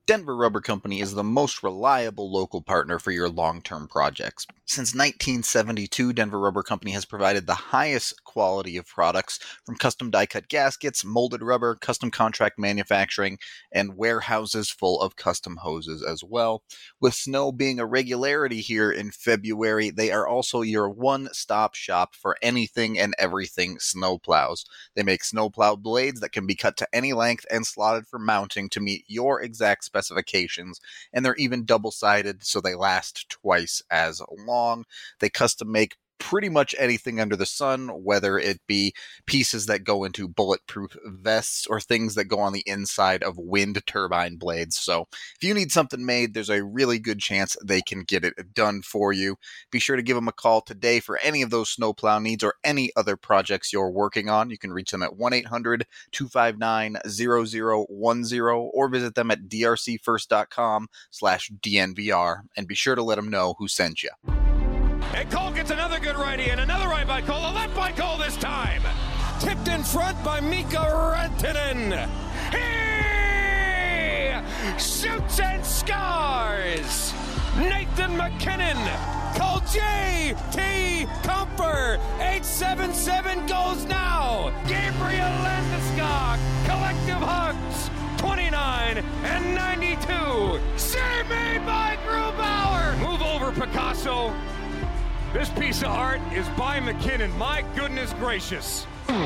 Denver Rubber Company is the most reliable local partner for your long-term projects. Since 1972, Denver Rubber Company has provided the highest quality of products from custom die-cut gaskets, molded rubber, custom contract manufacturing, and warehouses full of custom hoses as well. With snow being a regularity here in February, they are also your one-stop shop for anything and everything snowplows. They make snowplow blades that can be cut to any length and slotted for mounting to meet your exact specifications, and they're even double-sided so they last twice as long. They custom make pretty much anything under the sun, whether it be pieces that go into bulletproof vests or things that go on the inside of wind turbine blades. So if you need something made, there's a really good chance they can get it done for you. Be sure to give them a call today for any of those snowplow needs or any other projects you're working on. You can reach them at 1-800-259-0010 or visit them at drcfirst.com/DNVR, and be sure to let them know who sent you. And Cole gets another good righty and another right by Cole, a left by Cole this time. Tipped in front by Mika Rantanen. He shoots and scores. Nathan MacKinnon. Cole J.T. Comfer. 877 goes now. Gabriel Landeskog. Collective hugs. 29 and 92. Save made by Grubauer. Move over, Picasso. This piece of art is by MacKinnon. My goodness gracious.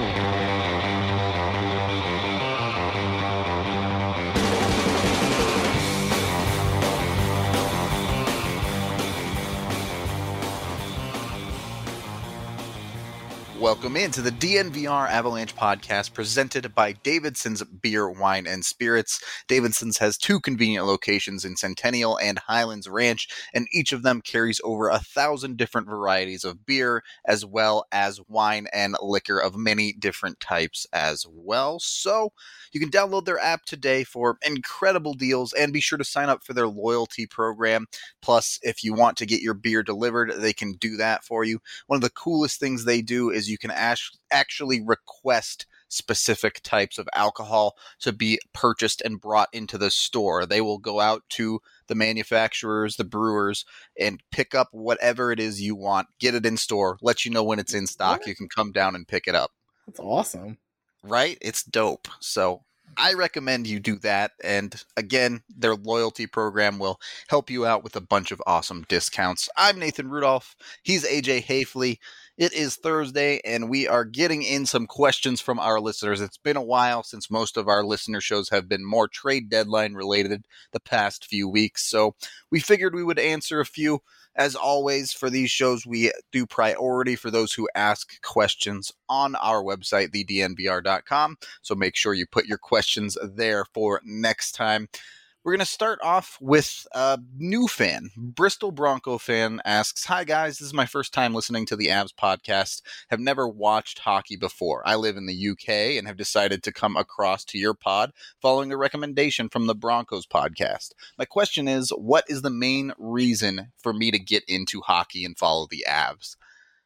Welcome into the DNVR Avalanche podcast presented by Davidson's Beer, Wine, and Spirits. Davidson's has two convenient locations in Centennial and Highlands Ranch, and each of them carries over 1,000 different varieties of beer, as well as wine and liquor of many different types as well. So you can download their app today for incredible deals, and be sure to sign up for their loyalty program. Plus, if you want to get your beer delivered, they can do that for you. One of the coolest things they do is you can actually request specific types of alcohol to be purchased and brought into the store. They will go out to the manufacturers, the brewers, and pick up whatever it is you want, get it in store, let you know when it's in stock. What? You can come down and pick it up. That's awesome. Right? It's dope. So I recommend you do that. And again, their loyalty program will help you out with a bunch of awesome discounts. I'm Nathan Rudolph. He's AJ Hafley. It is Thursday, and we are getting in some questions from our listeners. It's been a while since most of our listener shows have been more trade deadline related the past few weeks, so we figured we would answer a few. As always, for these shows, we do priority for those who ask questions on our website, thednvr.com, so make sure you put your questions there for next time. We're going to start off with a new fan. Bristol Bronco fan asks, "Hi guys, this is my first time listening to the Avs podcast. Have never watched hockey before. I live in the UK and have decided to come across to your pod following a recommendation from the Broncos podcast. My question is, what is the main reason for me to get into hockey and follow the Avs?"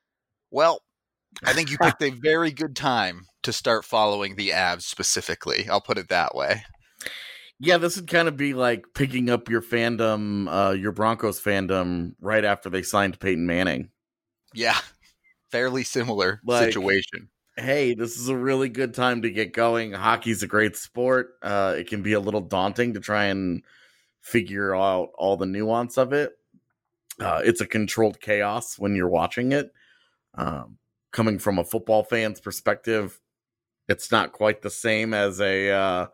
Well, I think you picked a very good time to start following the Avs specifically. I'll put it that way. Yeah, this would kind of be like picking up your fandom, your Broncos fandom, right after they signed Peyton Manning. Yeah, fairly similar situation. Hey, this is a really good time to get going. Hockey's a great sport. It can be a little daunting to try and figure out all the nuance of it. It's a controlled chaos when you're watching it. Coming from a football fan's perspective, it's not quite the same as a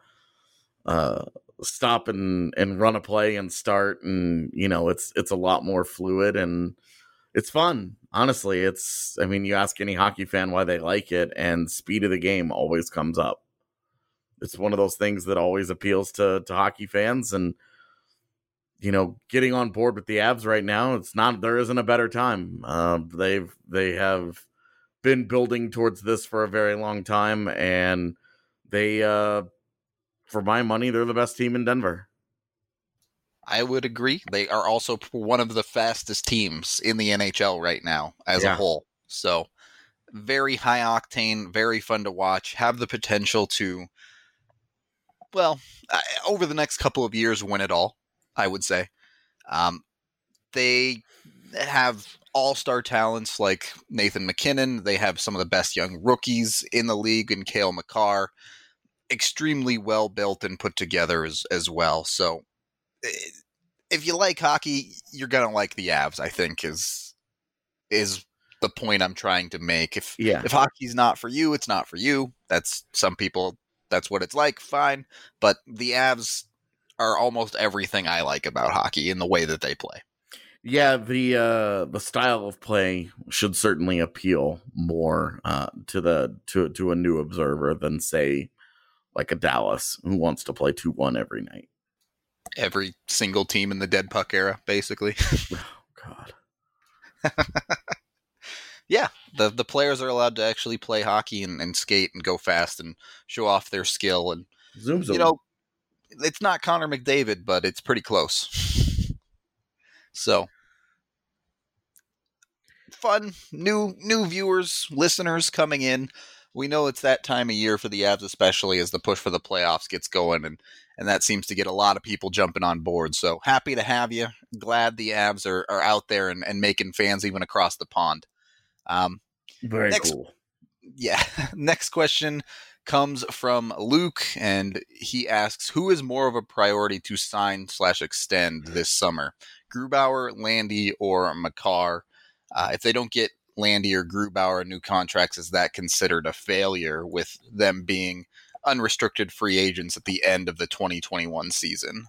stop and run a play and start, and it's a lot more fluid and it's fun. Honestly, you ask any hockey fan why they like it, and speed of the game always comes up. It's one of those things that always appeals to hockey fans, and getting on board with the Avs right now, there isn't a better time. They have been building towards this for a very long time, and they for my money, they're the best team in Denver. I would agree. They are also one of the fastest teams in the NHL right now as a whole. So very high octane, very fun to watch, have the potential to well, over the next couple of years, win it all, I would say. They have all-star talents like Nathan McKinnon. They have some of the best young rookies in the league in Cale Makar. Extremely well built and put together as well. So if you like hockey, you're going to like the Avs, I think, is the point I'm trying to make. If hockey's not for you, it's not for you. That's some people, that's what it's like, fine. But the Avs are almost everything I like about hockey in the way that they play. Yeah, the style of play should certainly appeal more to a new observer than, say, like a Dallas who wants to play 2-1 every night. Every single team in the dead puck era, basically. Oh, God. Yeah, the players are allowed to actually play hockey and skate and go fast and show off their skill. And, Zoom. It's not Connor McDavid, but it's pretty close. So, fun, new viewers, listeners coming in. We know it's that time of year for the Avs, especially as the push for the playoffs gets going, and that seems to get a lot of people jumping on board. So happy to have you. Glad the Avs are out there and making fans even across the pond. Very cool. Yeah. Next question comes from Luke, and he asks, who is more of a priority to sign/extend this summer? Grubauer, Landy, or Makar? If they don't get Landy or Grubauer new contracts, is that considered a failure with them being unrestricted free agents at the end of the 2021 season?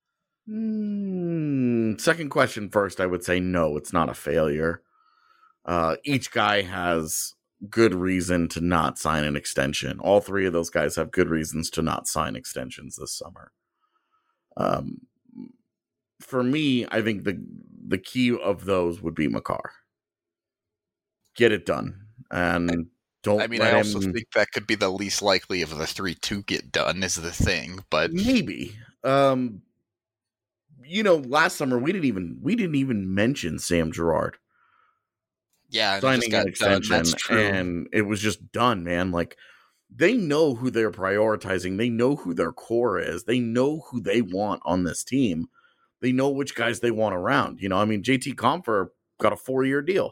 Second question first, I would say no, it's not a failure. Each guy has good reason to not sign an extension. All three of those guys have good reasons to not sign extensions this summer. For me, I think the key of those would be Makar. Get it done. And don't. I also think that could be the least likely of the three to get done is the thing, but maybe. Last summer we didn't even mention Sam Girard. Yeah, signing an extension, that's true. And it was just done, man. Like, they know who they're prioritizing. They know who their core is. They know who they want on this team. They know which guys they want around. JT Compher got a 4-year deal.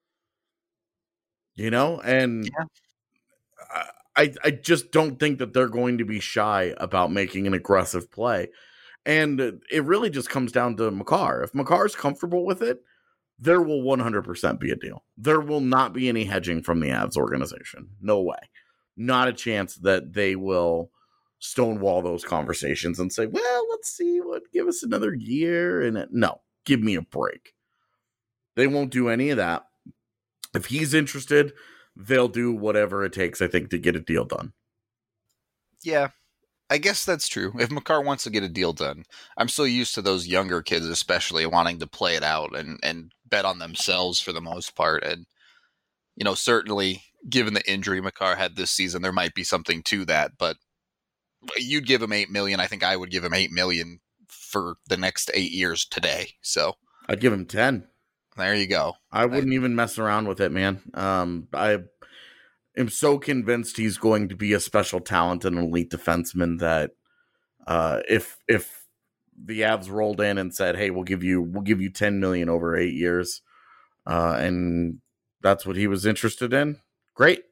And yeah. I just don't think that they're going to be shy about making an aggressive play. And it really just comes down to Makar. If Makar's comfortable with it, there will 100% be a deal. There will not be any hedging from the Avs organization. No way. Not a chance that they will stonewall those conversations and say, well, let's see give us another year. No, give me a break. They won't do any of that. If he's interested, they'll do whatever it takes, I think, to get a deal done. Yeah, I guess that's true. If Makar wants to get a deal done, I'm so used to those younger kids, especially wanting to play it out and bet on themselves for the most part. And, certainly given the injury Makar had this season, there might be something to that, but you'd give him $8 million. I think I would give him $8 million for the next 8 years today. So I'd give him 10. There you go. I wouldn't even mess around with it, man. I am so convinced he's going to be a special talent and elite defenseman that if the Avs rolled in and said, "Hey, we'll give you $10 million over 8 years," and that's what he was interested in, great.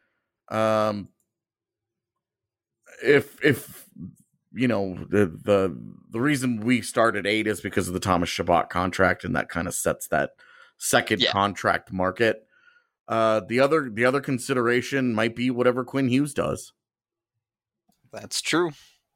If the reason we started 8 is because of the Thomas Chabot contract, and that kind of sets that second contract market. The other consideration might be whatever Quinn Hughes does. That's true.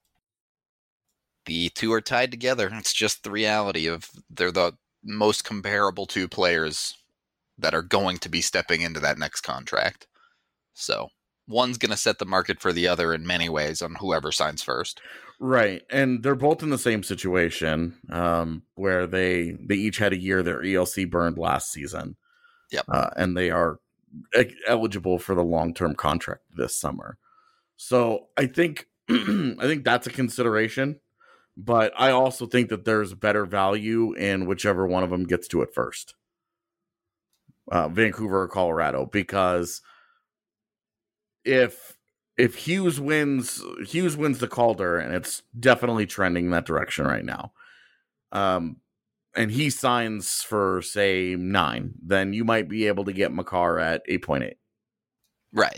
The two are tied together. It's just the reality of they're the most comparable two players that are going to be stepping into that next contract. So one's going to set the market for the other in many ways on whoever signs first. Right. And they're both in the same situation where they each had a year their ELC burned last season. Yep. And they are eligible for the long-term contract this summer. So I think that's a consideration, but I also think that there's better value in whichever one of them gets to it first. Vancouver or Colorado, because if if Hughes wins the Calder, and it's definitely trending in that direction right now. And he signs for, say, 9, then you might be able to get Makar at 8.8. Right.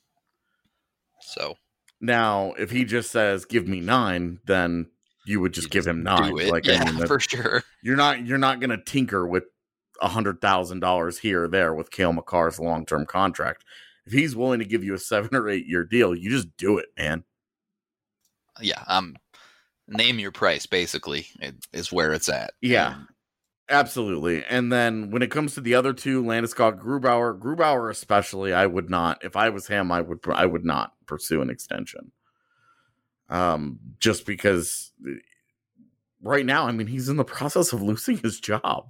So now, if he just says, give me 9, then you would just give him 9. Like, yeah, I mean, for sure. You're not going to tinker with $100,000 here or there with Cale Makar's long-term contract. If he's willing to give you a 7 or 8 year deal, you just do it, man. Yeah. Name your price, basically, is where it's at. Yeah. Absolutely. And then when it comes to the other two, Landeskog, Grubauer especially, I would not. If I was him, I would not pursue an extension. Just because right now, I mean, he's in the process of losing his job.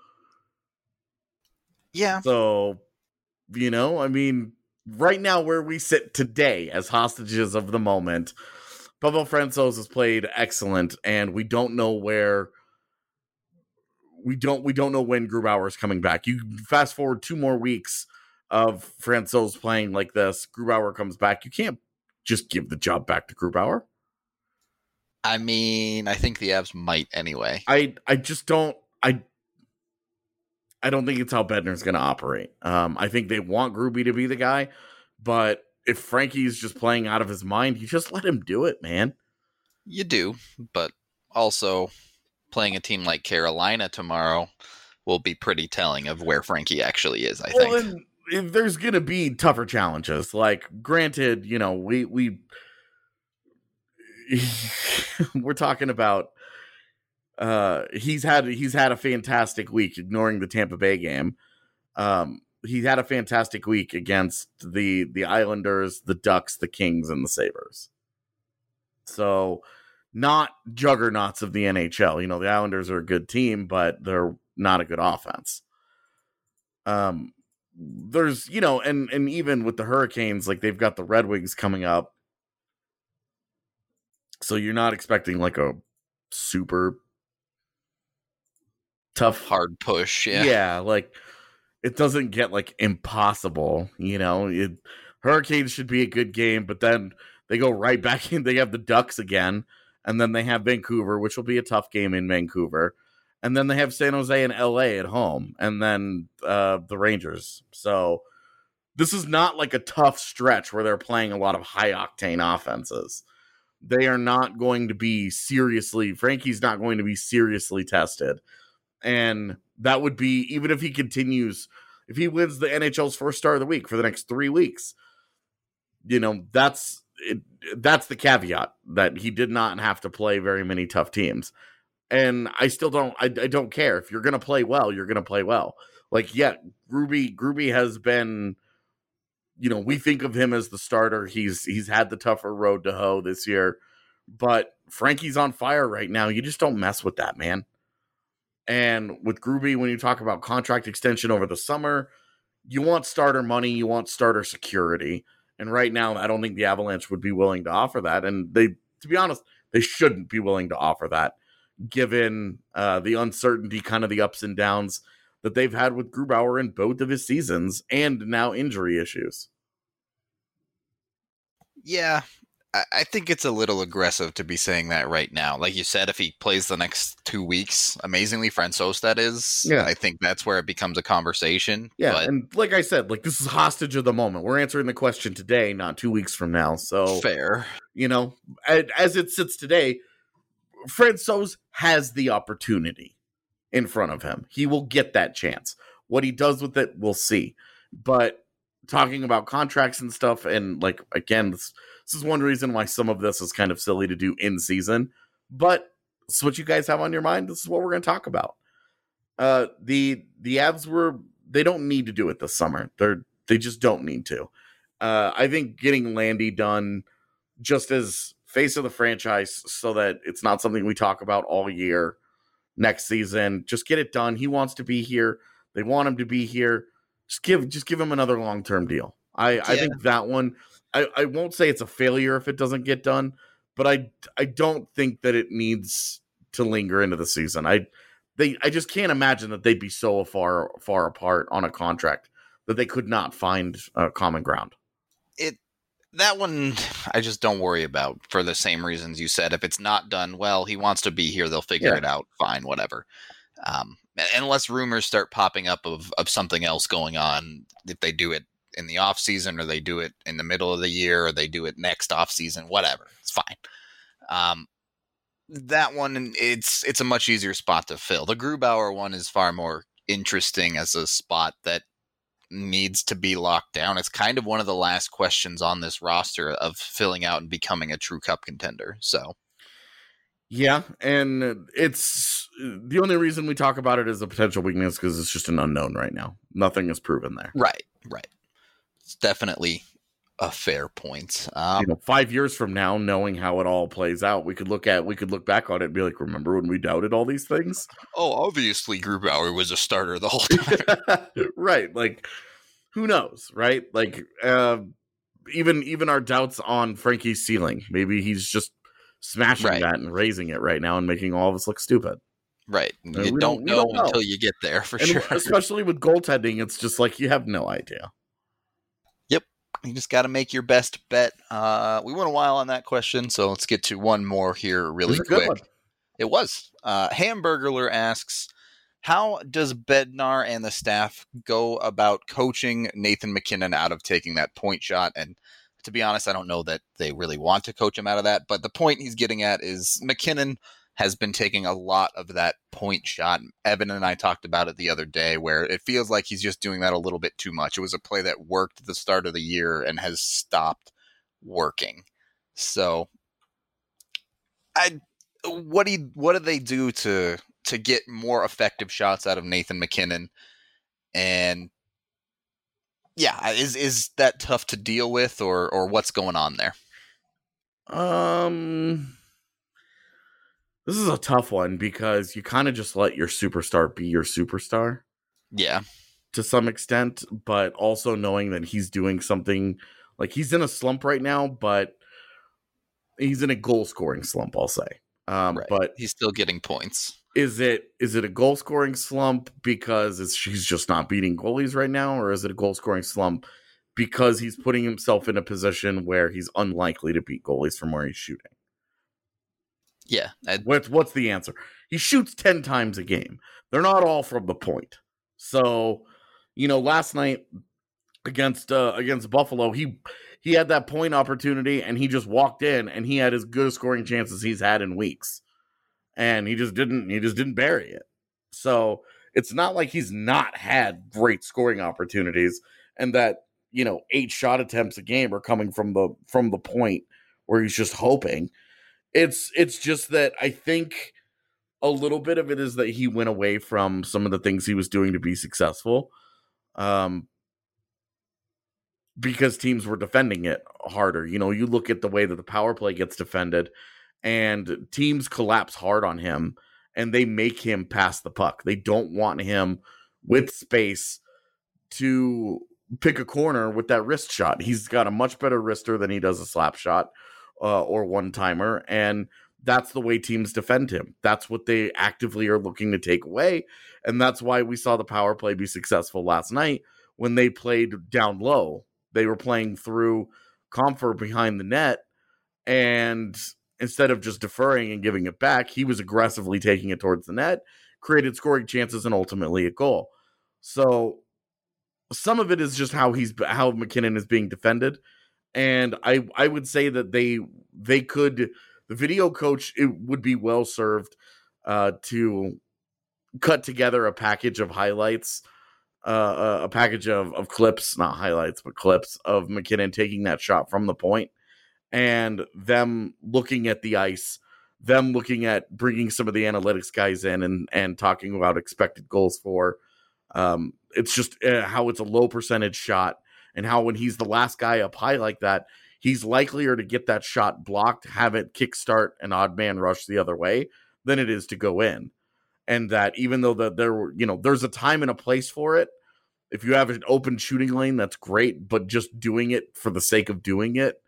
Yeah. So, I mean, right now where we sit today as hostages of the moment, Pavel Francouz has played excellent, and we don't know where. We don't know when Grubauer is coming back. You fast forward 2 more weeks of Francouz playing like this. Grubauer comes back. You can't just give the job back to Grubauer. I mean, I think the Avs might anyway. I just don't. I don't think it's how Bednar's going to operate. I think they want Gruby to be the guy, but if Frankie's just playing out of his mind, you just let him do it, man. You do, but also playing a team like Carolina tomorrow will be pretty telling of where Frankie actually is, I think. And there's going to be tougher challenges. Like, granted, we're talking about he's had a fantastic week, ignoring the Tampa Bay game. He had a fantastic week against the Islanders, the Ducks, the Kings, and the Sabres. So, not juggernauts of the NHL. The Islanders are a good team, but they're not a good offense. There's, and even with the Hurricanes, like, they've got the Red Wings coming up. So you're not expecting like a super tough, hard push. Yeah. Yeah. Like, it doesn't get like impossible, Hurricanes should be a good game, but then they go right back in. They have the Ducks again. And then they have Vancouver, which will be a tough game in Vancouver. And then they have San Jose and LA at home. And then the Rangers. So this is not like a tough stretch where they're playing a lot of high-octane offenses. They are not going to be Frankie's not going to be seriously tested. And that would be, even if he continues, if he wins the NHL's first star of the week for the next 3 weeks, that's the caveat, that he did not have to play very many tough teams. And I still don't, I don't care. If you're going to play well, you're going to play well. Like, yeah, Gruby has been, we think of him as the starter. He's had the tougher road to hoe this year, but Frankie's on fire right now. You just don't mess with that, man. And with Gruby, when you talk about contract extension over the summer, you want starter money, you want starter security. And right now, I don't think the Avalanche would be willing to offer that. And to be honest, they shouldn't be willing to offer that, given the uncertainty, kind of the ups and downs that they've had with Grubauer in both of his seasons, and now injury issues. Yeah, I think it's a little aggressive to be saying that right now. Like you said, if he plays the next 2 weeks, amazingly, Francouz, that is, yeah. I think that's where it becomes a conversation. Yeah, but, and like I said, like, this is hostage of the moment. We're answering the question today, not 2 weeks from now. So fair. As it sits today, Francouz has the opportunity in front of him. He will get that chance. What he does with it, we'll see. But talking about contracts and stuff, and like, again, this is one reason why some of this is kind of silly to do in season, but it's what you guys have on your mind. This is what we're going to talk about. The Avs they don't need to do it this summer. They just don't need to. I think getting Landy done just as face of the franchise, so that it's not something we talk about all year next season. Just get it done. He wants to be here. They want him to be here. Just give him another long-term deal. I think that one, I won't say it's a failure if it doesn't get done, but I don't think that it needs to linger into the season. I just can't imagine that they'd be so far apart on a contract that they could not find common ground. That one I just don't worry about for the same reasons you said. If it's not done well, he wants to be here. They'll figure it out. Fine, whatever. Unless rumors start popping up of something else going on, if they do it in the off season or they do it in the middle of the year or they do it next off season, whatever, it's fine. That one, it's a much easier spot to fill. The Grubauer one is far more interesting as a spot that needs to be locked down. It's kind of one of the last questions on this roster of filling out and becoming a true cup contender. So, yeah, and it's the only reason we talk about it as a potential weakness because it's just an unknown right now. Nothing is proven there. Right. It's definitely a fair point. 5 years from now, knowing how it all plays out, we could look back on it and be like, remember when we doubted all these things? Oh, obviously Grubauer was a starter the whole time. Right. Like, who knows, right? Like, even our doubts on Frankie's ceiling, maybe he's just smashing that and raising it right now and making all of us look stupid. Right. You don't know until you get there, for sure. Especially with goaltending, it's just like you have no idea. Yep. You just got to make your best bet. We went a while on that question, so let's get to one more here really quick. It was. Hamburgerler asks, how does Bednar and the staff go about coaching Nathan MacKinnon out of taking that point shot? And to be honest, I don't know that they really want to coach him out of that. But the point he's getting at is MacKinnon has been taking a lot of that point shot. Evan and I talked about it the other day where it feels like he's just doing that a little bit too much. It was a play that worked at the start of the year and has stopped working. So what do they do to get more effective shots out of Nathan MacKinnon? And yeah, is that tough to deal with or what's going on there? This is a tough one because you kind of just let your superstar be your superstar. Yeah. To some extent, but also knowing that he's doing something like he's in a slump right now, but he's in a goal scoring slump, I'll say. Right. But he's still getting points. Is it a goal scoring slump because he's just not beating goalies right now, or is it a goal scoring slump because he's putting himself in a position where he's unlikely to beat goalies from where he's shooting? Yeah. What's the answer? He shoots 10 times a game. They're not all from the point. So, last night against Buffalo, he had that point opportunity and he just walked in and he had as good a scoring chance as he's had in weeks. And he just didn't bury it. So it's not like he's not had great scoring opportunities and that, 8 shot attempts a game are coming from the point where he's just hoping. It's just that I think a little bit of it is that he went away from some of the things he was doing to be successful. Because teams were defending it harder. You look at the way that the power play gets defended and teams collapse hard on him and they make him pass the puck. They don't want him with space to pick a corner with that wrist shot. He's got a much better wrister than he does a slap shot or one-timer, and that's the way teams defend him. That's what they actively are looking to take away, and that's why we saw the power play be successful last night when they played down low. They were playing through Comfort behind the net, and instead of just deferring and giving it back, he was aggressively taking it towards the net, created scoring chances, and ultimately a goal. So some of it is just how MacKinnon is being defended. And I would say that they could, the video coach, it would be well served to cut together a package of highlights, a package of clips, not highlights, but clips of MacKinnon taking that shot from the point and them looking at the ice, them looking at bringing some of the analytics guys in and talking about expected goals for. It's just how it's a low percentage shot and how when he's the last guy up high like that, he's likelier to get that shot blocked, have it kickstart an odd man rush the other way than it is to go in. And that even though there's a time and a place for it, if you have an open shooting lane, that's great, but just doing it for the sake of doing it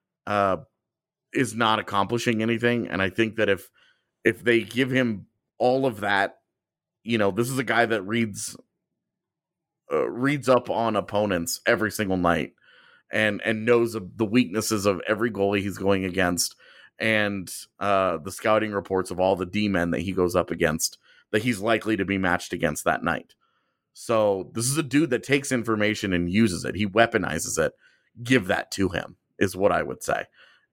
is not accomplishing anything. And I think that if they give him all of that, this is a guy that reads up on opponents every single night and knows of the weaknesses of every goalie he's going against, and the scouting reports of all the D-men that he goes up against that he's likely to be matched against that night. So this is a dude that takes information and uses it. He weaponizes it. Give that to him, is what I would say.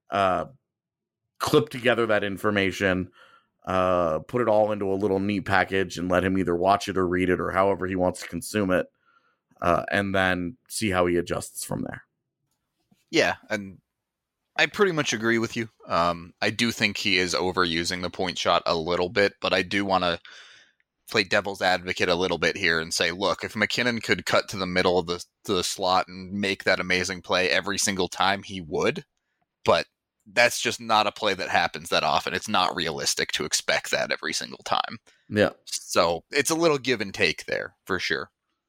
Clip together that information, put it all into a little neat package, and let him either watch it or read it or however he wants to consume it, and then see how he adjusts from there. Yeah, and I pretty much agree with you. I do think he is overusing the point shot a little bit, but I do want to play devil's advocate a little bit here and say, look, if MacKinnon could cut to the middle of the slot and make that amazing play every single time, he would. But that's just not a play that happens that often. It's not realistic to expect that every single time. Yeah. So it's a little give and take there for sure.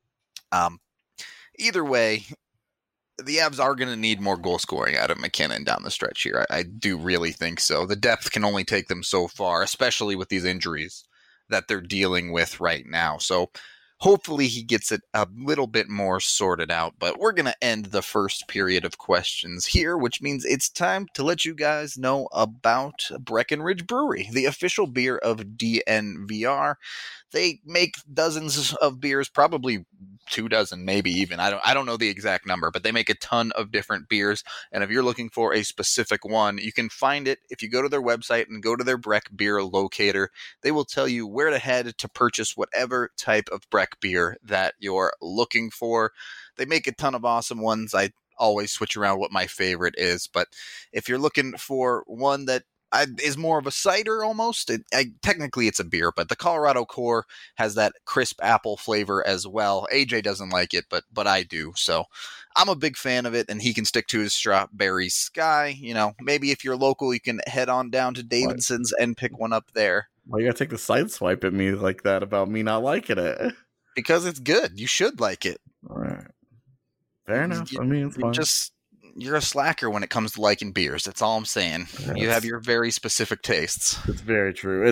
Either way, the Avs are going to need more goal scoring out of MacKinnon down the stretch here. I do really think so. The depth can only take them so far, especially with these injuries that they're dealing with right now. So hopefully he gets it a little bit more sorted out. But we're going to end the first period of questions here, which means it's time to let you guys know about Breckenridge Brewery, the official beer of DNVR. They make dozens of beers, probably 24, maybe even. I don't know the exact number, but they make a ton of different beers. And if you're looking for a specific one, you can find it if you go to their website and go to their Breck beer locator. They will tell you where to head to purchase whatever type of Breck beer that you're looking for. They make a ton of awesome ones. I always switch around what my favorite is, but if you're looking for one that is more of a cider almost. Technically it's a beer, but the Colorado Core has that crisp apple flavor as well. AJ doesn't like it, but I do. So I'm a big fan of it, and he can stick to his Strawberry Sky. You know, maybe if you're local, you can head on down to Davidson's and pick one up there. Why you gotta take the side swipe at me like that about me not liking it? Because it's good. You should like it. All right. Fair enough. I mean, it's fine. You're a slacker when it comes to liking beers. That's all I'm saying. You have your very specific tastes. It's very true.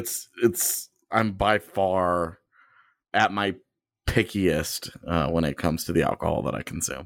I'm by far at my pickiest when it comes to the alcohol that I consume.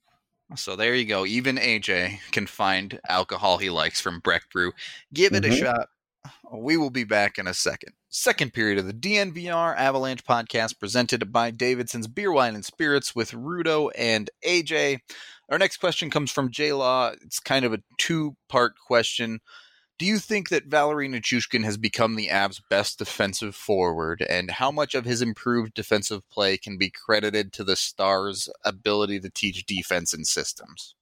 So there you go. Even AJ can find alcohol he likes from Breck Brew. Give it a shot. We will be back in a second. Second period of the DNVR Avalanche podcast presented by Davidson's Beer, Wine, and Spirits with Rudo and AJ. Our next question comes from J-Law. It's kind of a two-part question. Do you think that Valeri Nichushkin has become the Avs' best defensive forward, and how much of his improved defensive play can be credited to the Stars' ability to teach defense and systems?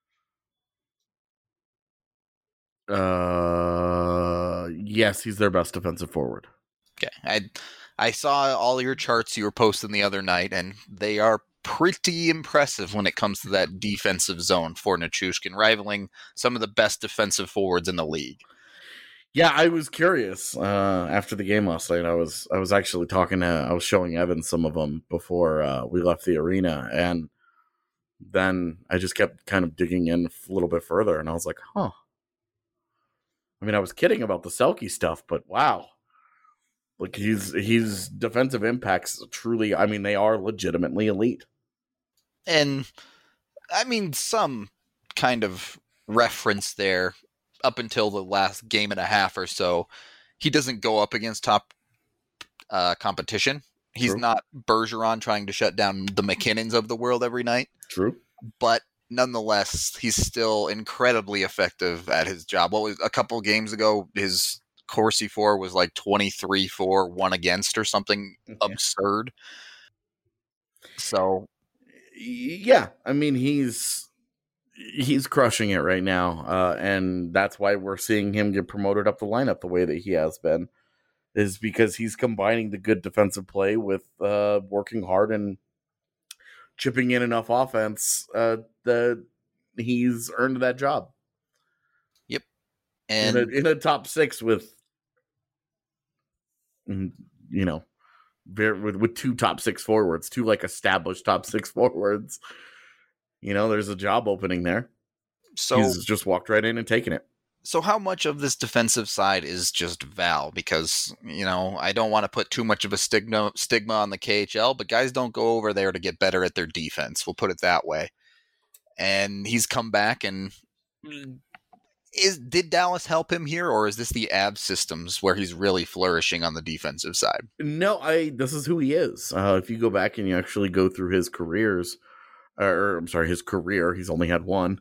Yes, he's their best defensive forward. Okay. I saw all your charts you were posting the other night, and they are pretty impressive when it comes to that defensive zone for Nichushkin, rivaling some of the best defensive forwards in the league. Yeah, I was curious after the game last night. I was actually I was showing Evan some of them before we left the arena, and then I just kept kind of digging in a little bit further, and I was like, huh. I mean, I was kidding about the Selke stuff, but wow. Like, his defensive impacts truly, I mean, they are legitimately elite. And, I mean, some kind of reference there up until the last game and a half or so. He doesn't go up against top competition. He's not Bergeron trying to shut down the McKinnons of the world every night. True. But nonetheless, he's still incredibly effective at his job. What was a couple of games ago, his Corsi for was like 23-4, 1 against or something absurd. So, yeah, I mean, he's crushing it right now, and that's why we're seeing him get promoted up the lineup the way that he has been, is because he's combining the good defensive play with working hard and chipping in enough offense that he's earned that job. Yep. And in a top six with, you know, with two top six forwards, two like established top six forwards, you know, there's a job opening there. So he's just walked right in and taken it. So how much of this defensive side is just Val? Because, you know, I don't want to put too much of a stigma on the KHL, but guys don't go over there to get better at their defense. We'll put it that way. and he's come back. And did Dallas help him here, or is this the Avs systems where he's really flourishing on the defensive side? No, this is who he is. If you go back and you actually go through his careers, his career, he's only had one.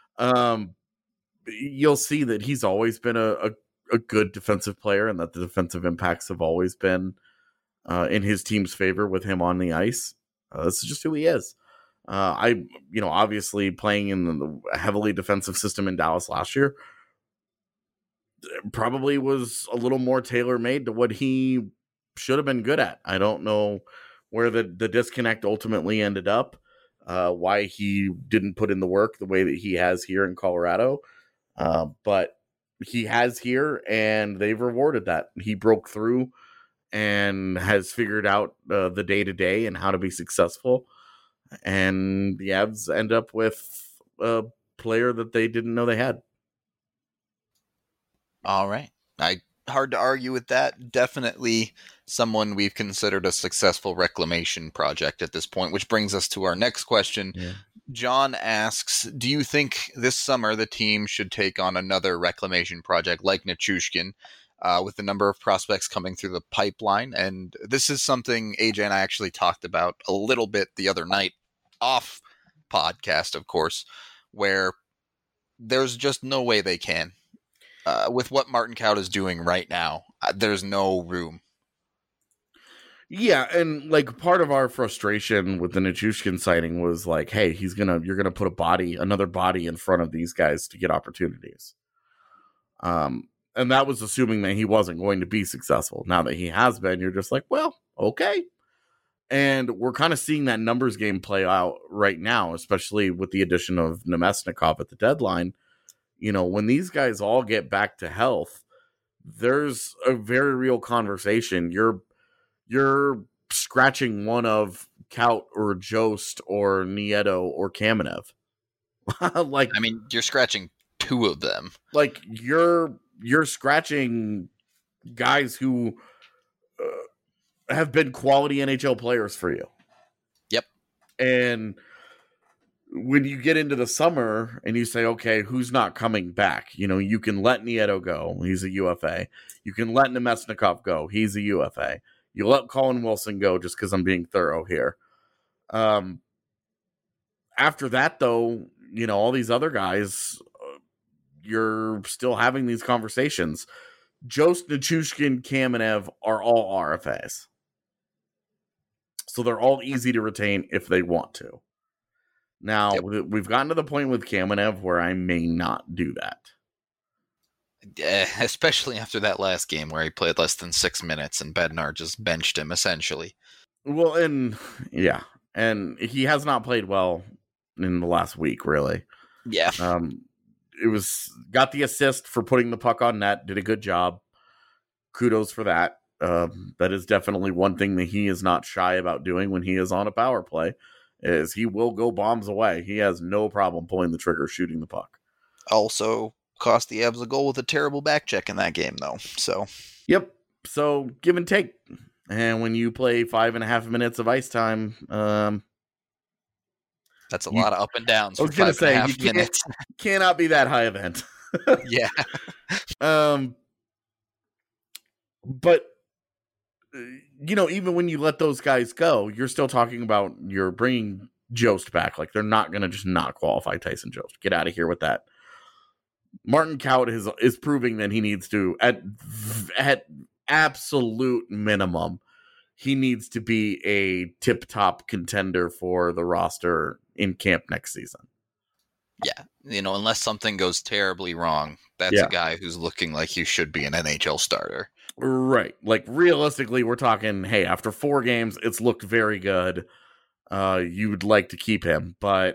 You'll see that he's always been a good defensive player, and that the defensive impacts have always been in his team's favor with him on the ice. This is just who he is. Obviously playing in the heavily defensive system in Dallas last year probably was a little more tailor-made to what he should have been good at. I don't know where the disconnect ultimately ended up, why he didn't put in the work the way that he has here in Colorado. But he has here, and they've rewarded that. He broke through and has figured out the day-to-day and how to be successful. And the Avs end up with a player that they didn't know they had. All right. Hard to argue with that. Definitely someone we've considered a successful reclamation project at this point, which brings us to our next question. Yeah. John asks, do you think this summer the team should take on another reclamation project like Nichushkin, with the number of prospects coming through the pipeline? And this is something AJ and I actually talked about a little bit the other night, off podcast, of course, where there's just no way they can. With what Martin Kaut is doing right now, there's no room. Yeah, and like part of our frustration with the Nichushkin sighting was like, hey, you're gonna put another body in front of these guys to get opportunities. And that was assuming that he wasn't going to be successful. Now that he has been, you're just like, well, okay. And we're kind of seeing that numbers game play out right now, especially with the addition of Nemesnikov at the deadline. When these guys all get back to health, there's a very real conversation. You're scratching one of Kaut or Jost or Nieto or Kamenev. You're scratching two of them. Like you're scratching guys who have been quality NHL players for you. Yep. And when you get into the summer and you say, okay, who's not coming back? You can let Nieto go. He's a UFA. You can let Nemesnikov go. He's a UFA. You let Colin Wilson go just because I'm being thorough here. After that, though, all these other guys, you're still having these conversations. Jost, Nichushkin, Kamenev are all RFAs. So they're all easy to retain if they want to. Now, We've gotten to the point with Kamenev where I may not do that. Especially after that last game where he played less than 6 minutes and Bednar just benched him, essentially. Well, and he has not played well in the last week, really. Yeah. Got the assist for putting the puck on net, did a good job. Kudos for that. That is definitely one thing that he is not shy about doing when he is on a power play. Is he will go bombs away. He has no problem pulling the trigger, shooting the puck. Also cost the Avs a goal with a terrible back check in that game, though. So yep. So give and take. And when you play 5.5 minutes of ice time, that's a lot of up and downs. I was going to say, you cannot be that high event. Yeah. But even when you let those guys go, you're still talking about you're bringing Jost back. Like, they're not going to just not qualify Tyson Jost. Get out of here with that. Martin Kaut is proving that he needs to, at absolute minimum, he needs to be a tip-top contender for the roster in camp next season. Yeah. Unless something goes terribly wrong, that's a guy who's looking like he should be an NHL starter. Right. Like, realistically, we're talking, hey, after 4 games, it's looked very good. You would like to keep him, but,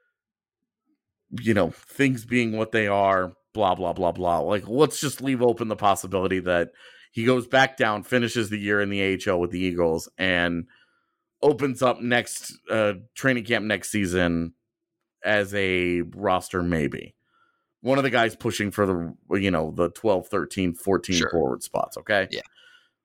things being what they are, blah, blah, blah, blah. Like, let's just leave open the possibility that he goes back down, finishes the year in the AHL with the Eagles, and opens up next training camp next season as a roster maybe. One of the guys pushing for the 12, 13, 14 forward spots, okay?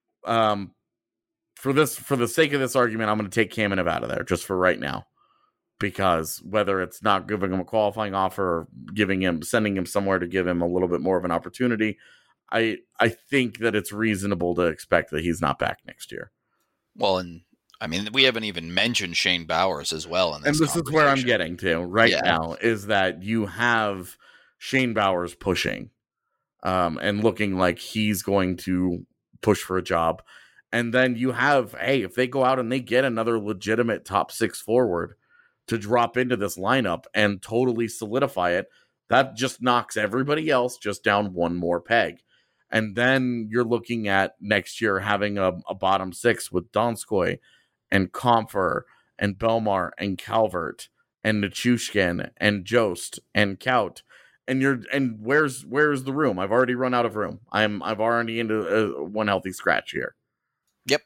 Yeah. For the sake of this argument, I'm going to take Kamenev out of there just for right now. because whether it's not giving him a qualifying offer or sending him somewhere to give him a little bit more of an opportunity, I think that it's reasonable to expect that he's not back next year. Well, and I mean, we haven't even mentioned Shane Bowers as well in this. And this is where I'm getting to now, is that you have Shane Bowers pushing and looking like he's going to push for a job. And then you have, hey, if they go out and they get another legitimate top 6 forward to drop into this lineup and totally solidify it, that just knocks everybody else just down one more peg. And then you're looking at next year having a bottom 6 with Donskoy and Compher and Belmar and Calvert and Nichushkin and Jost and Kaut. And where's the room? I've already run out of room. I've already into one healthy scratch here. Yep.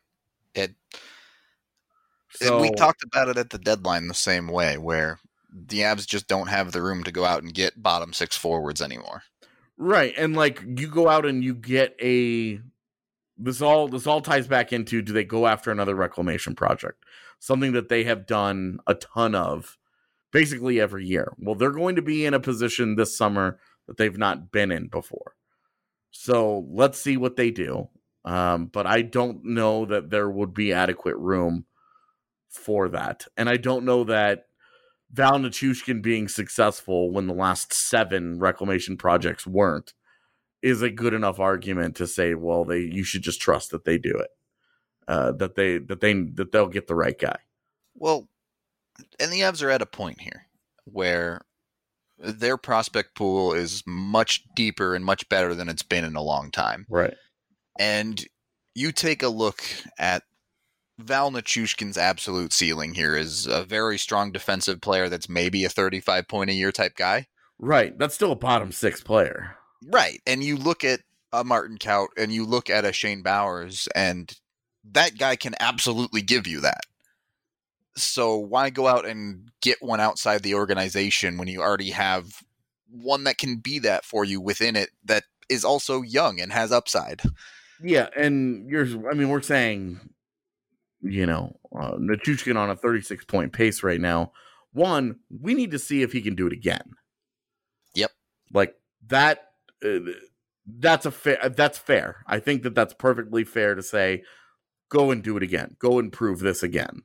So, we talked about it at the deadline the same way, where the Avs just don't have the room to go out and get bottom 6 forwards anymore. Right. And like you go out and you get this all ties back into, do they go after another reclamation project? Something that they have done a ton of basically every year. Well, they're going to be in a position this summer that they've not been in before. So let's see what they do. But I don't know that there would be adequate room for that. And I don't know that Val Nichushkin being successful when the last 7 reclamation projects weren't is a good enough argument to say, well, you should just trust that they do it. That they'll get the right guy. Well, and the Avs are at a point here where their prospect pool is much deeper and much better than it's been in a long time. Right. And you take a look at Val Nichushkin's absolute ceiling here is a very strong defensive player that's maybe a 35-point-a-year type guy. Right. That's still a bottom 6 player. Right. And you look at a Martin Kaut and you look at a Shane Bowers, and that guy can absolutely give you that. So why go out and get one outside the organization when you already have one that can be that for you within it, that is also young and has upside? Yeah, and we're saying, Nichushkin on a 36-point pace right now. One, we need to see if he can do it again. Yep. Like that. That's fair. I think that's perfectly fair to say, go and do it again. Go and prove this again.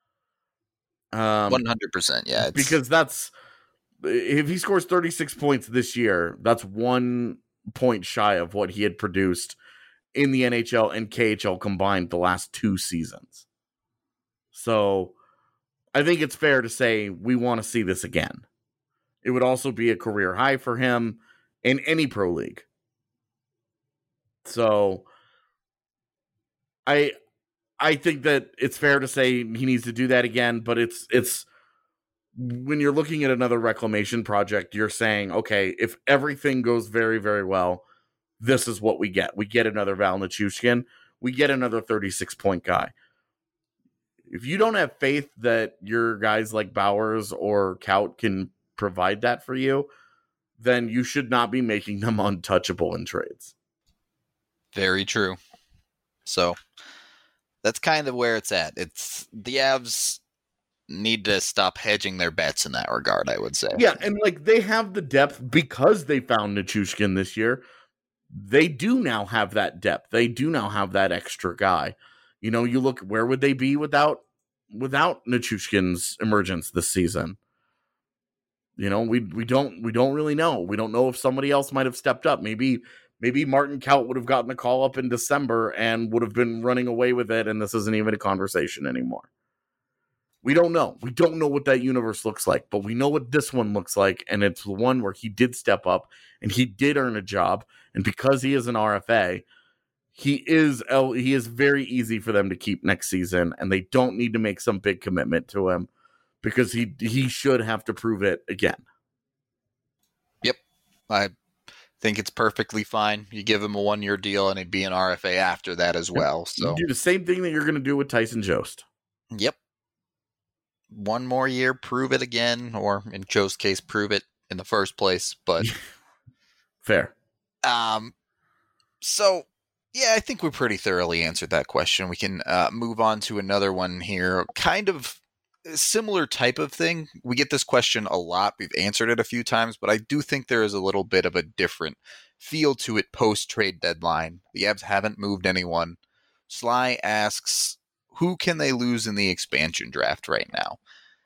100%. Yeah. Because if he scores 36 points this year, that's 1 point shy of what he had produced in the NHL and KHL combined the last 2 seasons. So I think it's fair to say we want to see this again. It would also be a career high for him in any pro league. So I think that it's fair to say he needs to do that again, but it's when you're looking at another reclamation project, you're saying, okay, if everything goes very, very well, this is what we get. We get another Val Nichushkin. We get another 36-point guy. If you don't have faith that your guys like Bowers or Kaut can provide that for you, then you should not be making them untouchable in trades. Very true. So that's kind of where it's at. It's the Avs need to stop hedging their bets in that regard, I would say. Yeah, and like they have the depth because they found Nichushkin this year. They do now have that depth. They do now have that extra guy. You look, where would they be without Nichushkin's emergence this season? We don't really know. We don't know if somebody else might have stepped up. Maybe Martin Kaut would have gotten the call up in December and would have been running away with it, and this isn't even a conversation anymore. We don't know. We don't know what that universe looks like, but we know what this one looks like, and it's the one where he did step up, and he did earn a job, and because he is an RFA, he is very easy for them to keep next season, and they don't need to make some big commitment to him because he should have to prove it again. Yep. I think it's perfectly fine. You give him a 1-year deal and he'd be an RFA after that as well. So you do the same thing that you're going to do with Tyson Jost. Yep. 1 more year, prove it again, or in Joe's case, prove it in the first place. But fair. So yeah, I think we pretty thoroughly answered that question. We can move on to another one here. Kind of similar type of thing. We get this question a lot. We've answered it a few times, but I do think there is a little bit of a different feel to it post-trade deadline. The Avs haven't moved anyone. Sly asks, who can they lose in the expansion draft right now?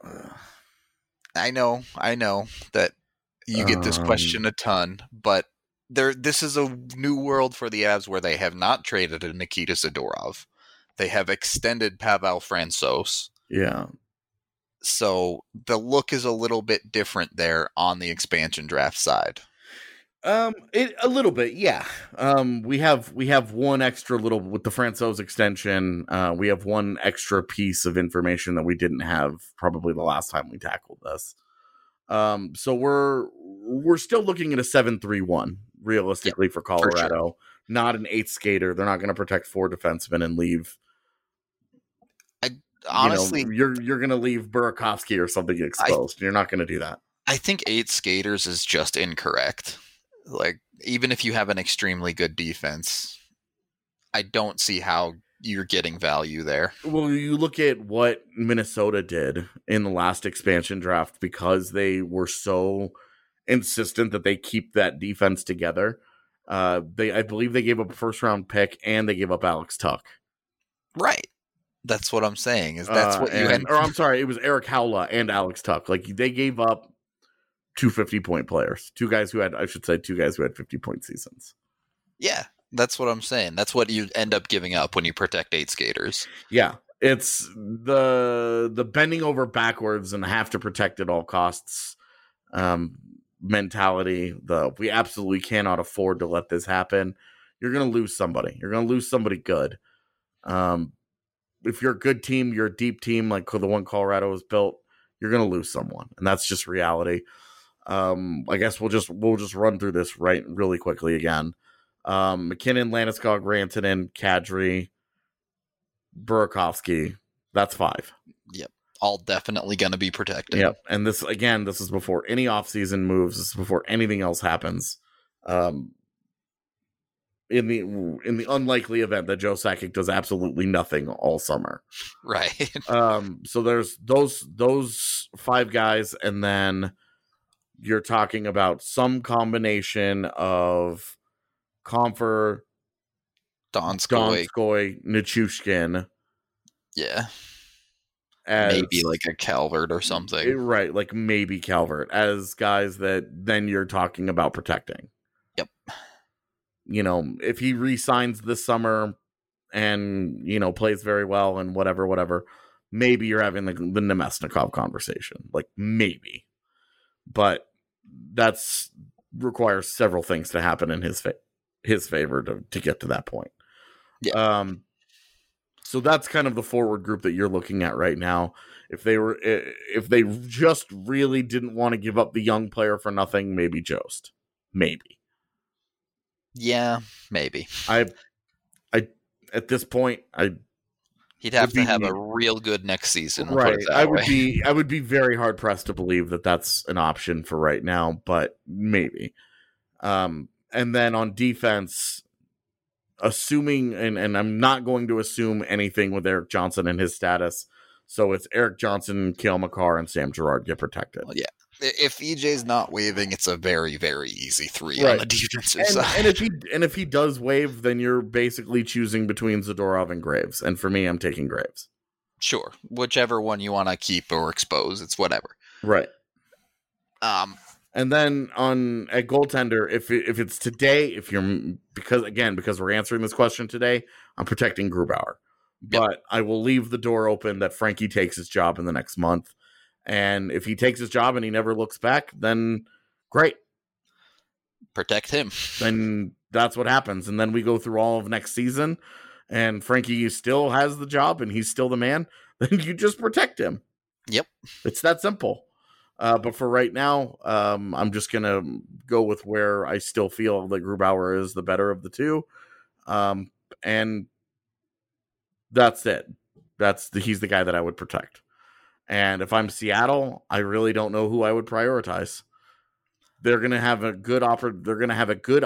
I know that you get this question a ton, but this is a new world for the Avs where they have not traded a Nikita Zadorov. They have extended Pavel Francouz. Yeah. So the look is a little bit different there on the expansion draft side. A little bit, yeah. We have one extra little with the Francouz extension. We have one extra piece of information that we didn't have probably the last time we tackled this. So we're still looking at a 7-3-1 realistically for Colorado, for sure. Not an 8 skater. They're not going to protect 4 defensemen and leave. Honestly, you're going to leave Burakovsky or something exposed. You're not going to do that. I think 8 skaters is just incorrect. Like, even if you have an extremely good defense, I don't see how you're getting value there. Well, you look at what Minnesota did in the last expansion draft because they were so insistent that they keep that defense together. I believe they gave up a first-round pick and they gave up Alex Tuch. Right. That's what I'm saying. That's what you had. Or I'm sorry, it was Eric Howla and Alex Tuch. Like, they gave up 2 50-point players. Two guys who had 50-point seasons. Yeah, that's what I'm saying. That's what you end up giving up when you protect 8 skaters. Yeah, it's the bending over backwards and have to protect at all costs mentality. We absolutely cannot afford to let this happen. You're going to lose somebody. You're going to lose somebody good. If you're a good team, you're a deep team like the one Colorado has built, you're going to lose someone, and that's just reality. I guess we'll just run through this really quickly again. McKinnon, Landeskog, Rantanen, Kadri, Burakovsky. That's 5. Yep. All definitely going to be protected. Yep. And this is before any offseason moves. This is before anything else happens. In the unlikely event that Joe Sakic does absolutely nothing all summer. Right. So there's those 5 guys, and then you're talking about some combination of Compher, Donskoy, Nichushkin. Yeah. Maybe like a Calvert or something. Right, like maybe Calvert as guys that then you're talking about protecting. Yep. If he re-signs this summer and, plays very well and whatever, maybe you're having the Nemesnikov conversation. Like, maybe. But that's requires several things to happen in his favor to get to that point. Yeah. So that's kind of the forward group that you're looking at right now. If they just really didn't want to give up the young player for nothing, maybe Jost. Maybe. Yeah, maybe. I at this point, he'd have to have a real good next season. Right. I would be very hard pressed to believe that that's an option for right now, but maybe. And then on defense, assuming, and I'm not going to assume anything with Erik Johnson and his status. So it's Erik Johnson, Cale Makar, and Sam Girard get protected. Well, yeah. If EJ's not waiving, it's a very, very easy 3 on the defensive side. And if he does waive, then you're basically choosing between Zadorov and Graves. And for me, I'm taking Graves. Sure, whichever one you want to keep or expose, it's whatever. Right. And then at goaltender, if it's today, because we're answering this question today, I'm protecting Grubauer. But yep. I will leave the door open that Frankie takes his job in the next month. And if he takes his job and he never looks back, then great. Protect him. Then that's what happens. And then we go through all of next season and Frankie still has the job and he's still the man. Then you just protect him. Yep. It's that simple. But for right now, I'm just going to go with where I still feel that Grubauer is the better of the two. And that's it. He's the guy that I would protect. And if I'm Seattle, I really don't know who I would prioritize. They're going to have a good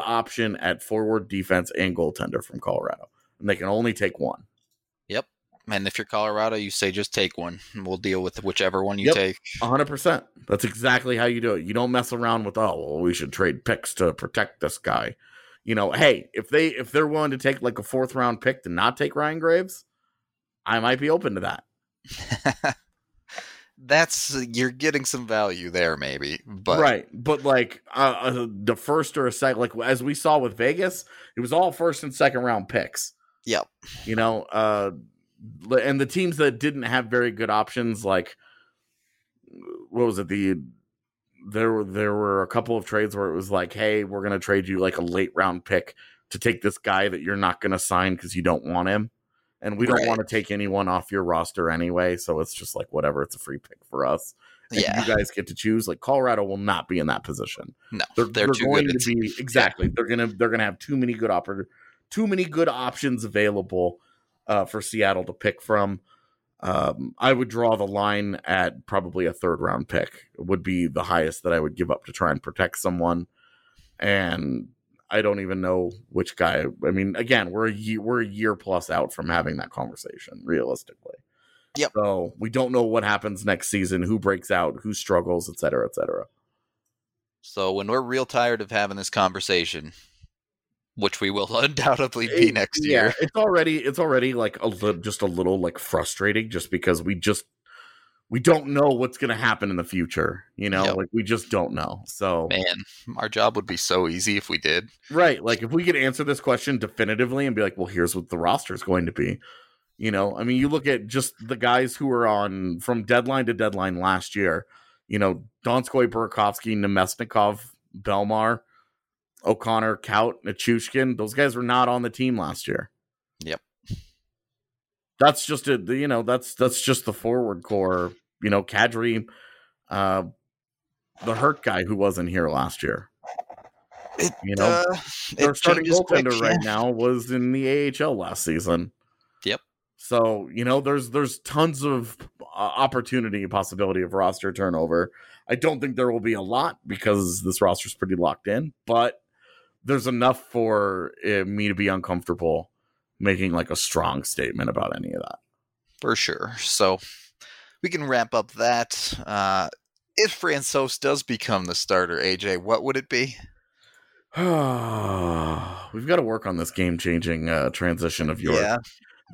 option at forward, defense, and goaltender from Colorado, and they can only take one. Yep, And if you're Colorado, you say just take one, and we'll deal with whichever one you Yep. take. 100%. That's exactly how you do it. You don't mess around with, we should trade picks to protect this guy. Hey, if they're willing to take like a 4th round pick to not take Ryan Graves, I might be open to that. You're getting some value there, maybe, but right. But like the first or a second, like as we saw with Vegas, it was all 1st and 2nd round picks. Yep. And the teams that didn't have very good options, like what was it? There were a couple of trades where it was like, hey, we're gonna trade you like a late round pick to take this guy that you're not gonna sign because you don't want him. And we don't want to take anyone off your roster anyway, so it's just like whatever. It's a free pick for us. And you guys get to choose. Like Colorado will not be in that position. No, they're too going good to be exactly. Yeah. They're gonna have too many good options available for Seattle to pick from. I would draw the line at probably a 3rd round pick. It would be the highest that I would give up to try and protect someone. And I don't even know which guy. I mean, again, we're a year plus out from having that conversation, realistically. Yep. So we don't know what happens next season, who breaks out, who struggles, et cetera, et cetera. So when we're real tired of having this conversation, which we will undoubtedly be next year, it's already like just a little like frustrating, just because we don't know what's going to happen in the future, Yep. Like we just don't know. So man, our job would be so easy if we did. Right. Like if we could answer this question definitively and be like, well, here's what the roster is going to be. I mean, you look at just the guys who were on from deadline to deadline last year, Donskoy, Burakovsky, Nemesnikov, Belmar, O'Connor, Kaut, Nichushkin. Those guys were not on the team last year. Yep. That's just that's just the forward core. Kadri, the hurt guy who wasn't here last year. Their starting goaltender right now was in the AHL last season. Yep. So there's tons of opportunity, possibility of roster turnover. I don't think there will be a lot because this roster is pretty locked in, but there's enough for me to be uncomfortable making like a strong statement about any of that. For sure. So we can wrap up that. If Francouz does become the starter, AJ, what would it be? We've got to work on this game-changing transition of yours. Yeah.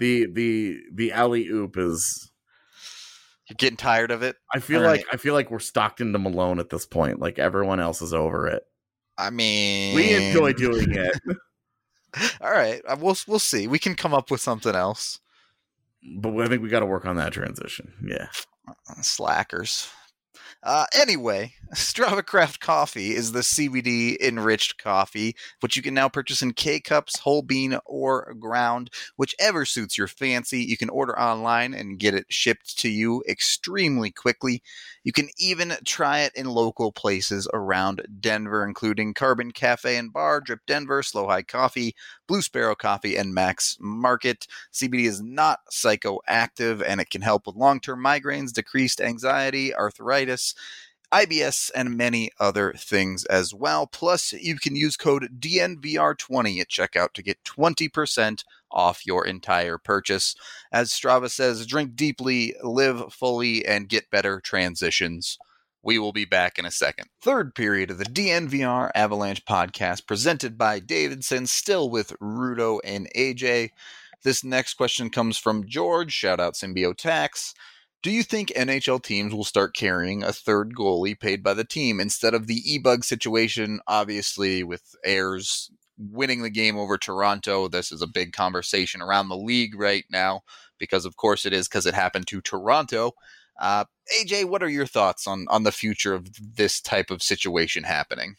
The alley-oop is... You're getting tired of it? I feel like we're Stockton to Malone at this point. Like everyone else is over it. I mean... We enjoy doing it. All right. We'll see. We can come up with something else. But I think we got to work on that transition. Yeah. Slackers. Anyway, Strava Craft Coffee is the CBD enriched coffee, which you can now purchase in K-Cups, whole bean, or ground, whichever suits your fancy. You can order online and get it shipped to you extremely quickly. You can even try it in local places around Denver, including Carbon Cafe and Bar, Drip Denver, Slow High Coffee, Blue Sparrow Coffee, and Max Market. CBD is not psychoactive, and it can help with long-term migraines, decreased anxiety, arthritis, IBS, and many other things as well. Plus, you can use code DNVR20 at checkout to get 20% off your entire purchase. As Strava says, drink deeply, live fully, and get better transitions. We will be back in a second. Third period of the DNVR Avalanche podcast presented by Davidson, still with Rudo and AJ. This next question comes from George. Shout out Symbiotax. Do you think NHL teams will start carrying a third goalie paid by the team instead of the E-Bug situation? Obviously, with Ayers winning the game over Toronto, this is a big conversation around the league right now because, of course, it is because it happened to Toronto. AJ, what are your thoughts on the future of this type of situation happening?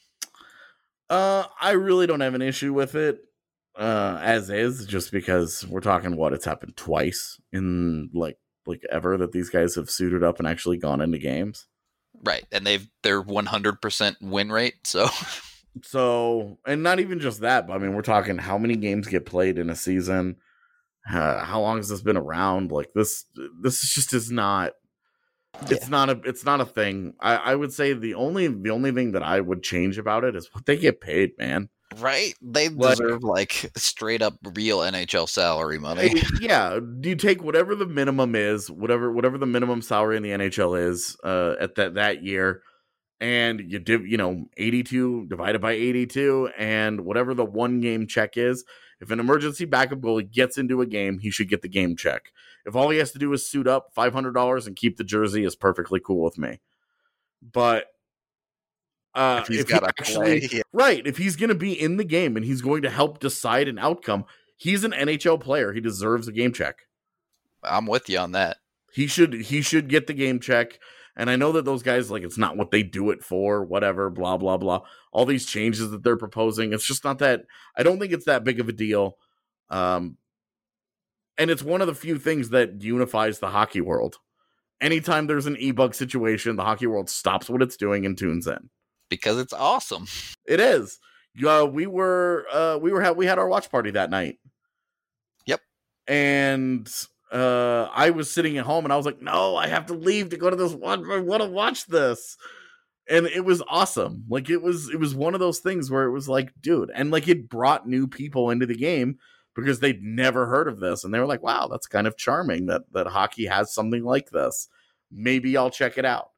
I really don't have an issue with it as is, just because we're talking it's happened twice in like ever that these guys have suited up and actually gone into games. Right. And they're 100% win rate. So, and not even just that, but I mean, we're talking how many games get played in a season. How long has this been around? Like this just is not, it's not a thing. I would say the only thing that I would change about it is what they get paid, man. Right? They deserve like straight up real NHL salary money. Yeah, you take whatever the minimum is, whatever the minimum salary in the NHL is at that year, and you 82 divided by 82, and whatever the 1-game check is. If an emergency backup goalie gets into a game, he should get the game check. If all he has to do is suit up, $500 and keep the jersey is perfectly cool with me. But if he's got to play, right, if he's going to be in the game and he's going to help decide an outcome, he's an NHL player. He deserves a game check. I'm with you on that. He should get the game check. And I know that those guys, like, it's not what they do it for, whatever, blah, blah, blah. All these changes that they're proposing, it's just not that, I don't think it's that big of a deal. And it's one of the few things that unifies the hockey world. Anytime there's an e-bug situation, the hockey world stops what it's doing and tunes in. Because it's awesome. It is. We had our watch party that night. Yep. And I was sitting at home and I was like, no, I have to leave to go to this one. I want to watch this. And it was awesome. Like it was one of those things where it was like, dude, and like it brought new people into the game because they'd never heard of this. And they were like, wow, that's kind of charming that hockey has something like this. Maybe I'll check it out.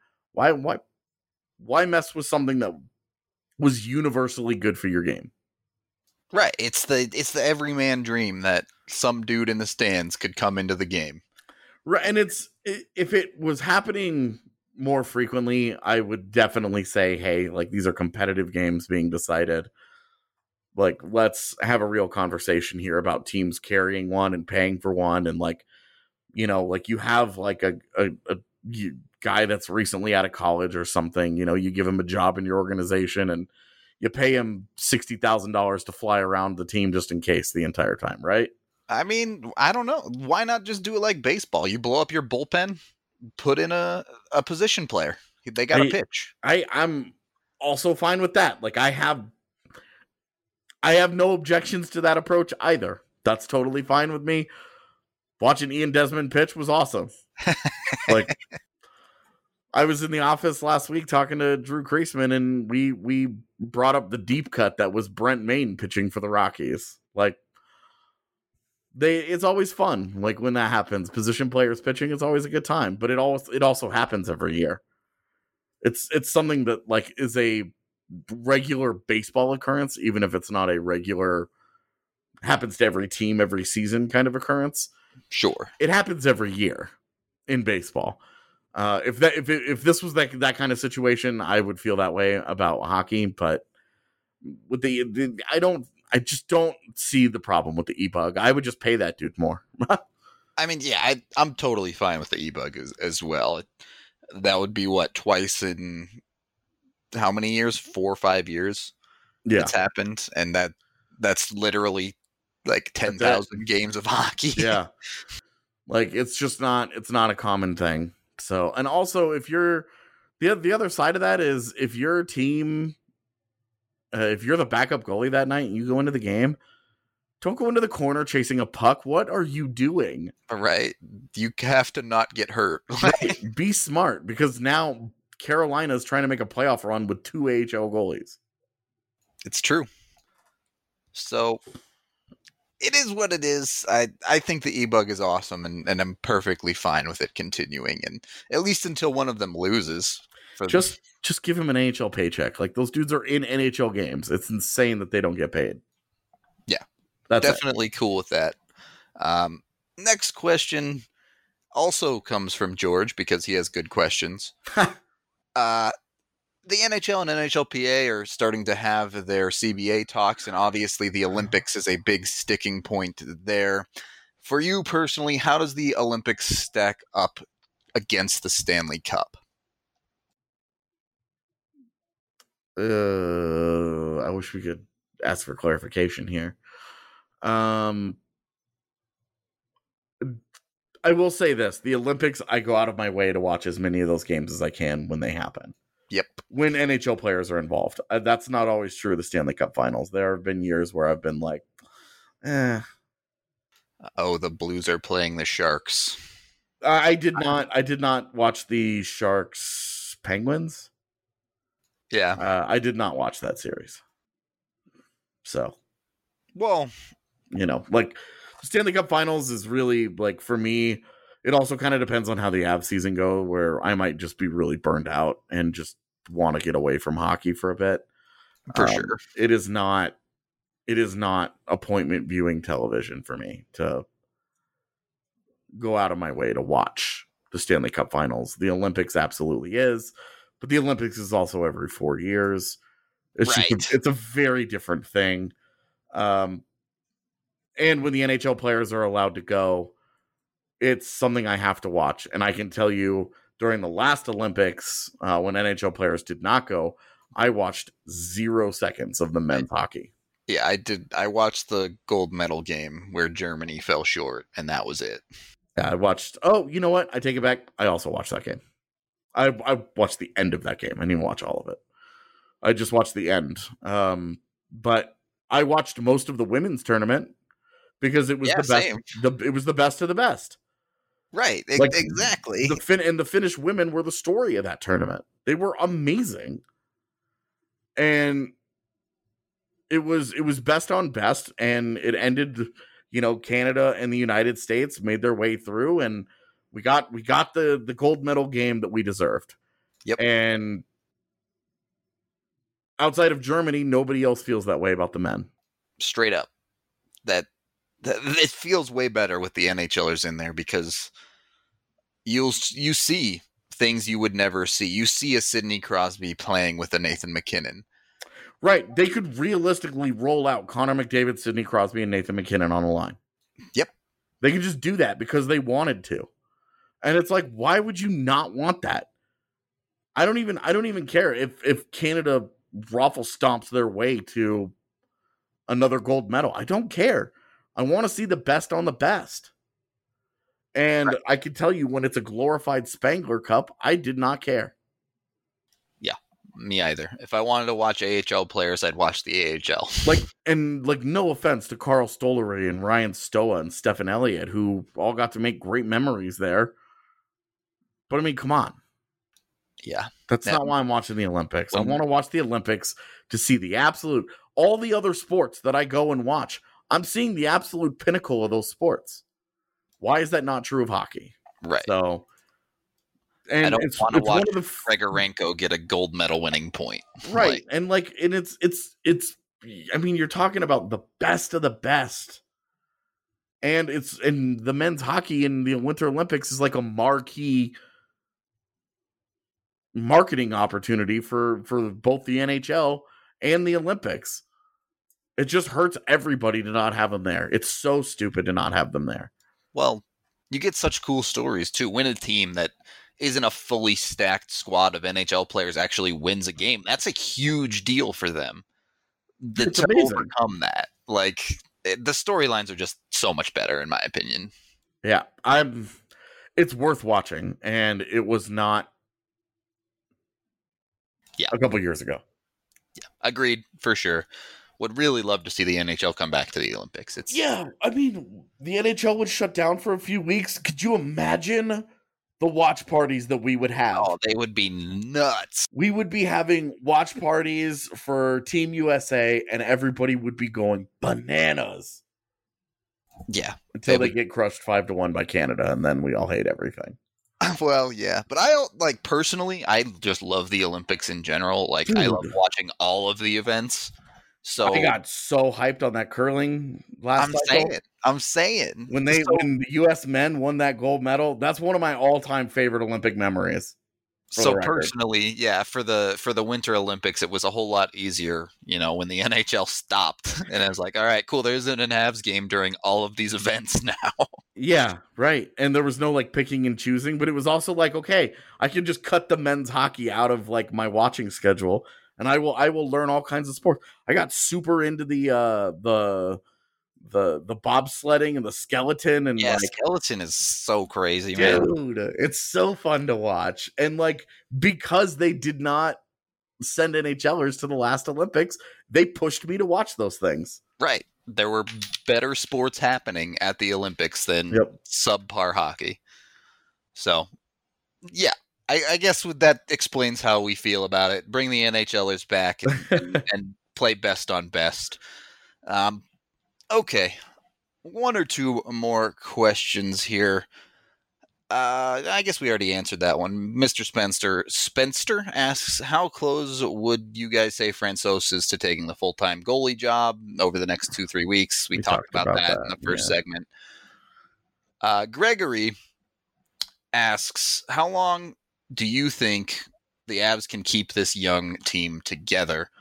Why mess with something that was universally good for your game? Right. It's the everyman dream that some dude in the stands could come into the game. Right. And if it was happening more frequently, I would definitely say, hey, like these are competitive games being decided. Like, let's have a real conversation here about teams carrying one and paying for one. And like, like you have like a guy that's recently out of college or something, you give him a job in your organization and you pay him $60,000 to fly around the team just in case the entire time, right? I mean, I don't know. Why not just do it like baseball? You blow up your bullpen, put in a position player. They got to pitch. I'm also fine with that. Like I have no objections to that approach either. That's totally fine with me. Watching Ian Desmond pitch was awesome. Like I was in the office last week talking to Drew Kreisman, and we brought up the deep cut that was Brent Maine pitching for the Rockies. Like it's always fun. Like when that happens, position players pitching, it's always a good time. But it also happens every year. It's something that like is a regular baseball occurrence, even if it's not a regular happens to every team every season kind of occurrence. Sure, it happens every year in baseball. If this was that kind of situation, I would feel that way about hockey. But with I just don't see the problem with the e-bug. I would just pay that dude more. I mean, yeah, I'm totally fine with the e-bug as well. That would be twice in how many years? 4 or 5 years. Yeah, it's happened, and that's literally like 10,000 games of hockey. Yeah, like it's not a common thing. So, and also if you're the other side of that is if your team, if you're the backup goalie that night and you go into the game, don't go into the corner chasing a puck. What are you doing? Right. You have to not get hurt. Right. Be smart, because now Carolina's trying to make a playoff run with 2 AHL goalies. It's true. So it is what it is. I think the e-bug is awesome, and I'm perfectly fine with it continuing, and at least until one of them loses. Just give him an NHL paycheck. Like those dudes are in NHL games. It's insane that they don't get paid. Yeah, that's definitely cool with that. Next question also comes from George because he has good questions. The NHL and NHLPA are starting to have their CBA talks, and obviously the Olympics is a big sticking point there. For you personally, how does the Olympics stack up against the Stanley Cup? I wish we could ask for clarification here. I will say this. The Olympics, I go out of my way to watch as many of those games as I can when they happen. Yep. When NHL players are involved. That's not always true of the Stanley Cup Finals. There have been years where I've been like, Oh, the Blues are playing the Sharks. I did not watch the Sharks Penguins. Yeah. I did not watch that series. So, Well, like the Stanley Cup Finals is really like for me. It also kind of depends on how the Avs season go, where I might just be really burned out and just want to get away from hockey for a bit. for sure. It is not appointment viewing television for me to go out of my way to watch the Stanley Cup Finals. The Olympics absolutely is, but the Olympics is also every 4 years. It's Right. it's a very different thing. And when the NHL players are allowed to go, it's something I have to watch. And I can tell you during the last Olympics, when NHL players did not go, I watched 0 seconds of the men's hockey. Yeah, I did. I watched the gold medal game where Germany fell short, and that was it. Yeah, I watched. Oh, you know what? I take it back. I also watched that game. I watched the end of that game. I didn't even watch all of it. I just watched the end. But I watched most of the women's tournament because it was the best. Same. It was the best of the best. Right. Like, Exactly. The Finnish women were the story of that tournament. They were amazing, and it was best on best, and it ended. Canada and the United States made their way through, and we got the gold medal game that we deserved. Yep. And outside of Germany, nobody else feels that way about the men. Straight up. That it feels way better with the NHLers in there because you see things you would never see. You see a Sidney Crosby playing with a Nathan MacKinnon. Right. They could realistically roll out Connor McDavid, Sidney Crosby, and Nathan MacKinnon on a line. Yep. They could just do that because they wanted to. And it's like, why would you not want that? I don't even care if Canada raffle stomps their way to another gold medal. I don't care. I want to see the best on the best. And right. I can tell you when it's a glorified Spangler Cup, I did not care. Yeah, me either. If I wanted to watch AHL players, I'd watch the AHL. No offense to Carl Stollery and Ryan Stoa and Stephen Elliott, who all got to make great memories there. But I mean, come on. Yeah. That's not why I'm watching the Olympics. I want to watch the Olympics to see all the other sports that I go and watch. I'm seeing the absolute pinnacle of those sports. Why is that not true of hockey? Right. So, and I don't want to watch Grigorenko get a gold medal winning point. Right. It's I mean, you're talking about the best of the best. And the men's hockey in the Winter Olympics is like a marquee marketing opportunity for both the NHL and the Olympics. It just hurts everybody to not have them there. It's so stupid to not have them there. Well, you get such cool stories too. When a team that isn't a fully stacked squad of NHL players actually wins a game, that's a huge deal for them. It's to amazing. Overcome that. Like, the storylines are just so much better, in my opinion. Yeah, it's worth watching, and it was not a couple years ago. Yeah, agreed, for sure. Would really love to see the NHL come back to the Olympics. I mean, the NHL would shut down for a few weeks. Could you imagine the watch parties that we would have? Oh, they would be nuts. We would be having watch parties for Team USA, and everybody would be going bananas. Yeah. Until they get crushed 5-1 by Canada, and then we all hate everything. Well, yeah. But personally, I just love the Olympics in general. Like, Dude. I love watching all of the events. So I got so hyped on that curling last cycle. I'm saying. When the US men won that gold medal, that's one of my all-time favorite Olympic memories. So personally, yeah, for the Winter Olympics, it was a whole lot easier, when the NHL stopped. And I was like, all right, cool, there isn't an Avs game during all of these events now. Yeah, right. And there was no picking and choosing, but it was also okay, I can just cut the men's hockey out of my watching schedule. And I will learn all kinds of sports. I got super into the bobsledding and the skeleton and skeleton is so crazy, dude, man. It's so fun to watch. And because they did not send NHLers to the last Olympics, they pushed me to watch those things. Right. There were better sports happening at the Olympics than subpar hockey. So, yeah. I guess that explains how we feel about it. Bring the NHLers back and play best on best. Okay, one or two more questions here. I guess we already answered that one. Mr. Spencer asks, how close would you guys say Francouz is to taking the full-time goalie job over the next 2-3 weeks? We talked about that in the first segment. Gregory asks, how long do you think the Avs can keep this young team together?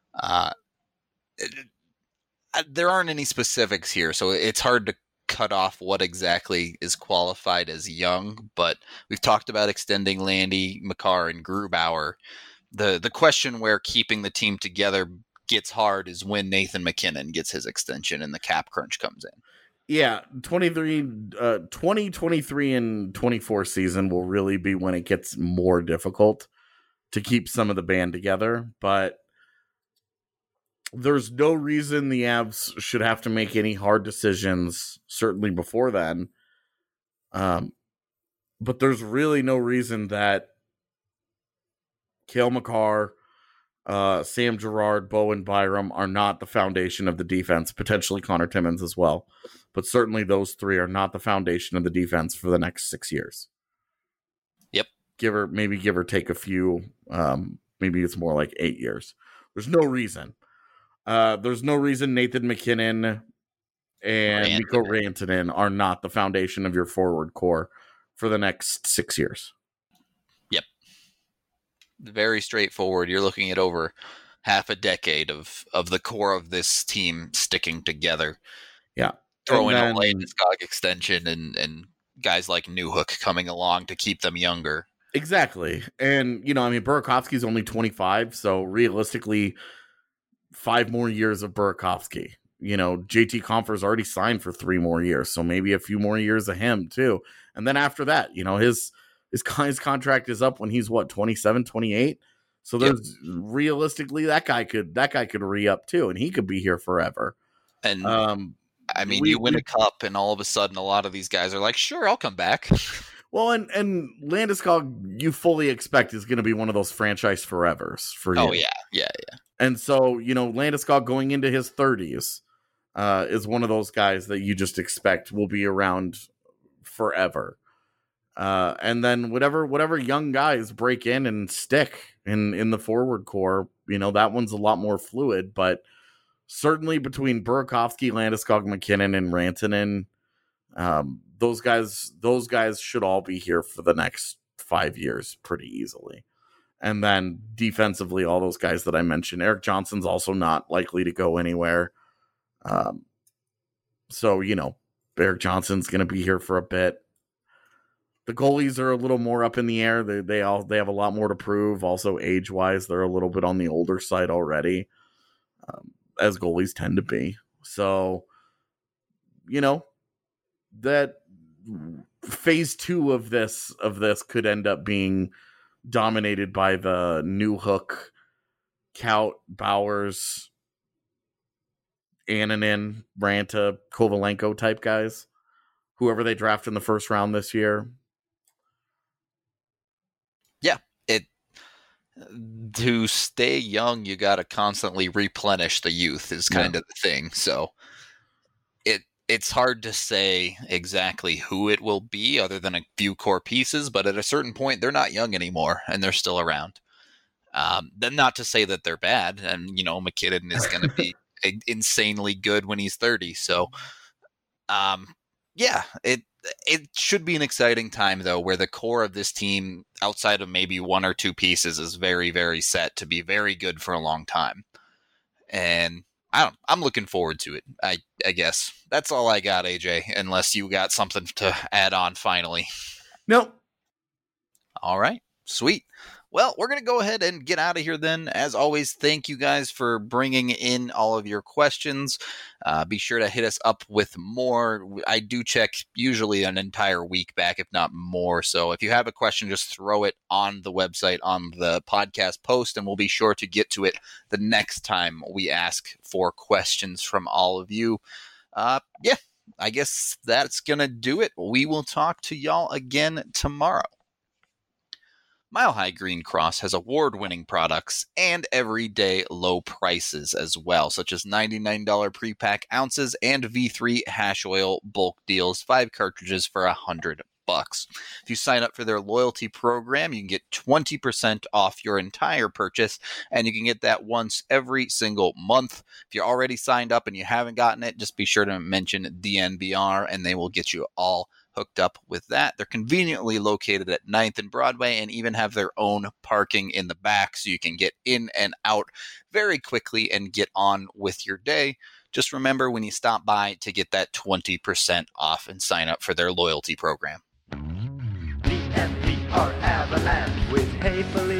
There aren't any specifics here, so it's hard to cut off what exactly is qualified as young, but we've talked about extending Landy, Makar, and Grubauer. The question where keeping the team together gets hard is when Nathan MacKinnon gets his extension and the cap crunch comes in. Yeah, 2023 and 24 season will really be when it gets more difficult to keep some of the band together, but there's no reason the Avs should have to make any hard decisions, certainly before then. But there's really no reason that Cale Makar, Sam Girard, Bowen Byram are not the foundation of the defense, potentially Connor Timmins as well. But certainly those three are not the foundation of the defense for the next 6 years. Yep. Give or take a few. Maybe it's more like 8 years. There's no reason. There's no reason Nathan MacKinnon and Mikko Rantanen are not the foundation of your forward core for the next 6 years. Yep. Very straightforward. You're looking at over half a decade of the core of this team sticking together. Yeah. Throwing a Landeskog extension and guys like Newhook coming along to keep them younger. Exactly. And, Burakovsky's only 25, so realistically 5 more years of Burakovsky. JT Compher's already signed for 3 more years, so maybe a few more years of him too. And then after that, his contract is up when he's 27, 28. So there's realistically that guy could re-up too, and he could be here forever. And you win a cup, and all of a sudden, a lot of these guys are like, "Sure, I'll come back." Well, and Landeskog, you fully expect is going to be one of those franchise forevers for you. Oh yeah. And so Landeskog going into his 30s is one of those guys that you just expect will be around forever. And then whatever young guys break in and stick in the forward core, that one's a lot more fluid, but. Certainly between Burakovsky, Landeskog, MacKinnon, and Rantanen, those guys should all be here for the next 5 years pretty easily. And then defensively, all those guys that I mentioned, Erik Johnson's also not likely to go anywhere. So Erik Johnson's going to be here for a bit. The goalies are a little more up in the air. They have a lot more to prove. Also, age-wise, they're a little bit on the older side already. As goalies tend to be. So, that phase 2 of this could end up being dominated by the Newhook, Kaut, Bowers, Annunen, Ranta, Kovalenko type guys. Whoever they draft in the first round this year. Yeah. To stay young, you got to constantly replenish the youth is kind of the thing. So it's hard to say exactly who it will be other than a few core pieces, but at a certain point, they're not young anymore and they're still around. Then not to say that they're bad. And, MacKinnon is going to be insanely good when he's 30. So, it should be an exciting time, though, where the core of this team, outside of maybe 1 or 2 pieces, is very, very set to be very good for a long time. And I'm looking forward to it, I guess. That's all I got, AJ, unless you got something to add on finally. Nope. All right. Sweet. Well, we're going to go ahead and get out of here then. As always, thank you guys for bringing in all of your questions. Be sure to hit us up with more. I do check usually an entire week back, if not more. So if you have a question, just throw it on the website, on the podcast post, and we'll be sure to get to it the next time we ask for questions from all of you. I guess that's going to do it. We will talk to y'all again tomorrow. Mile High Green Cross has award-winning products and everyday low prices as well, such as $99 pre-pack ounces and V3 hash oil bulk deals, 5 cartridges for $100. If you sign up for their loyalty program, you can get 20% off your entire purchase, and you can get that once every single month. If you're already signed up and you haven't gotten it, just be sure to mention DNBR, and they will get you all hooked up with that. They're conveniently located at 9th and Broadway and even have their own parking in the back, so you can get in and out very quickly and get on with your day. Just remember when you stop by to get that 20% off and sign up for their loyalty program. DNVR Avalanche with Haefele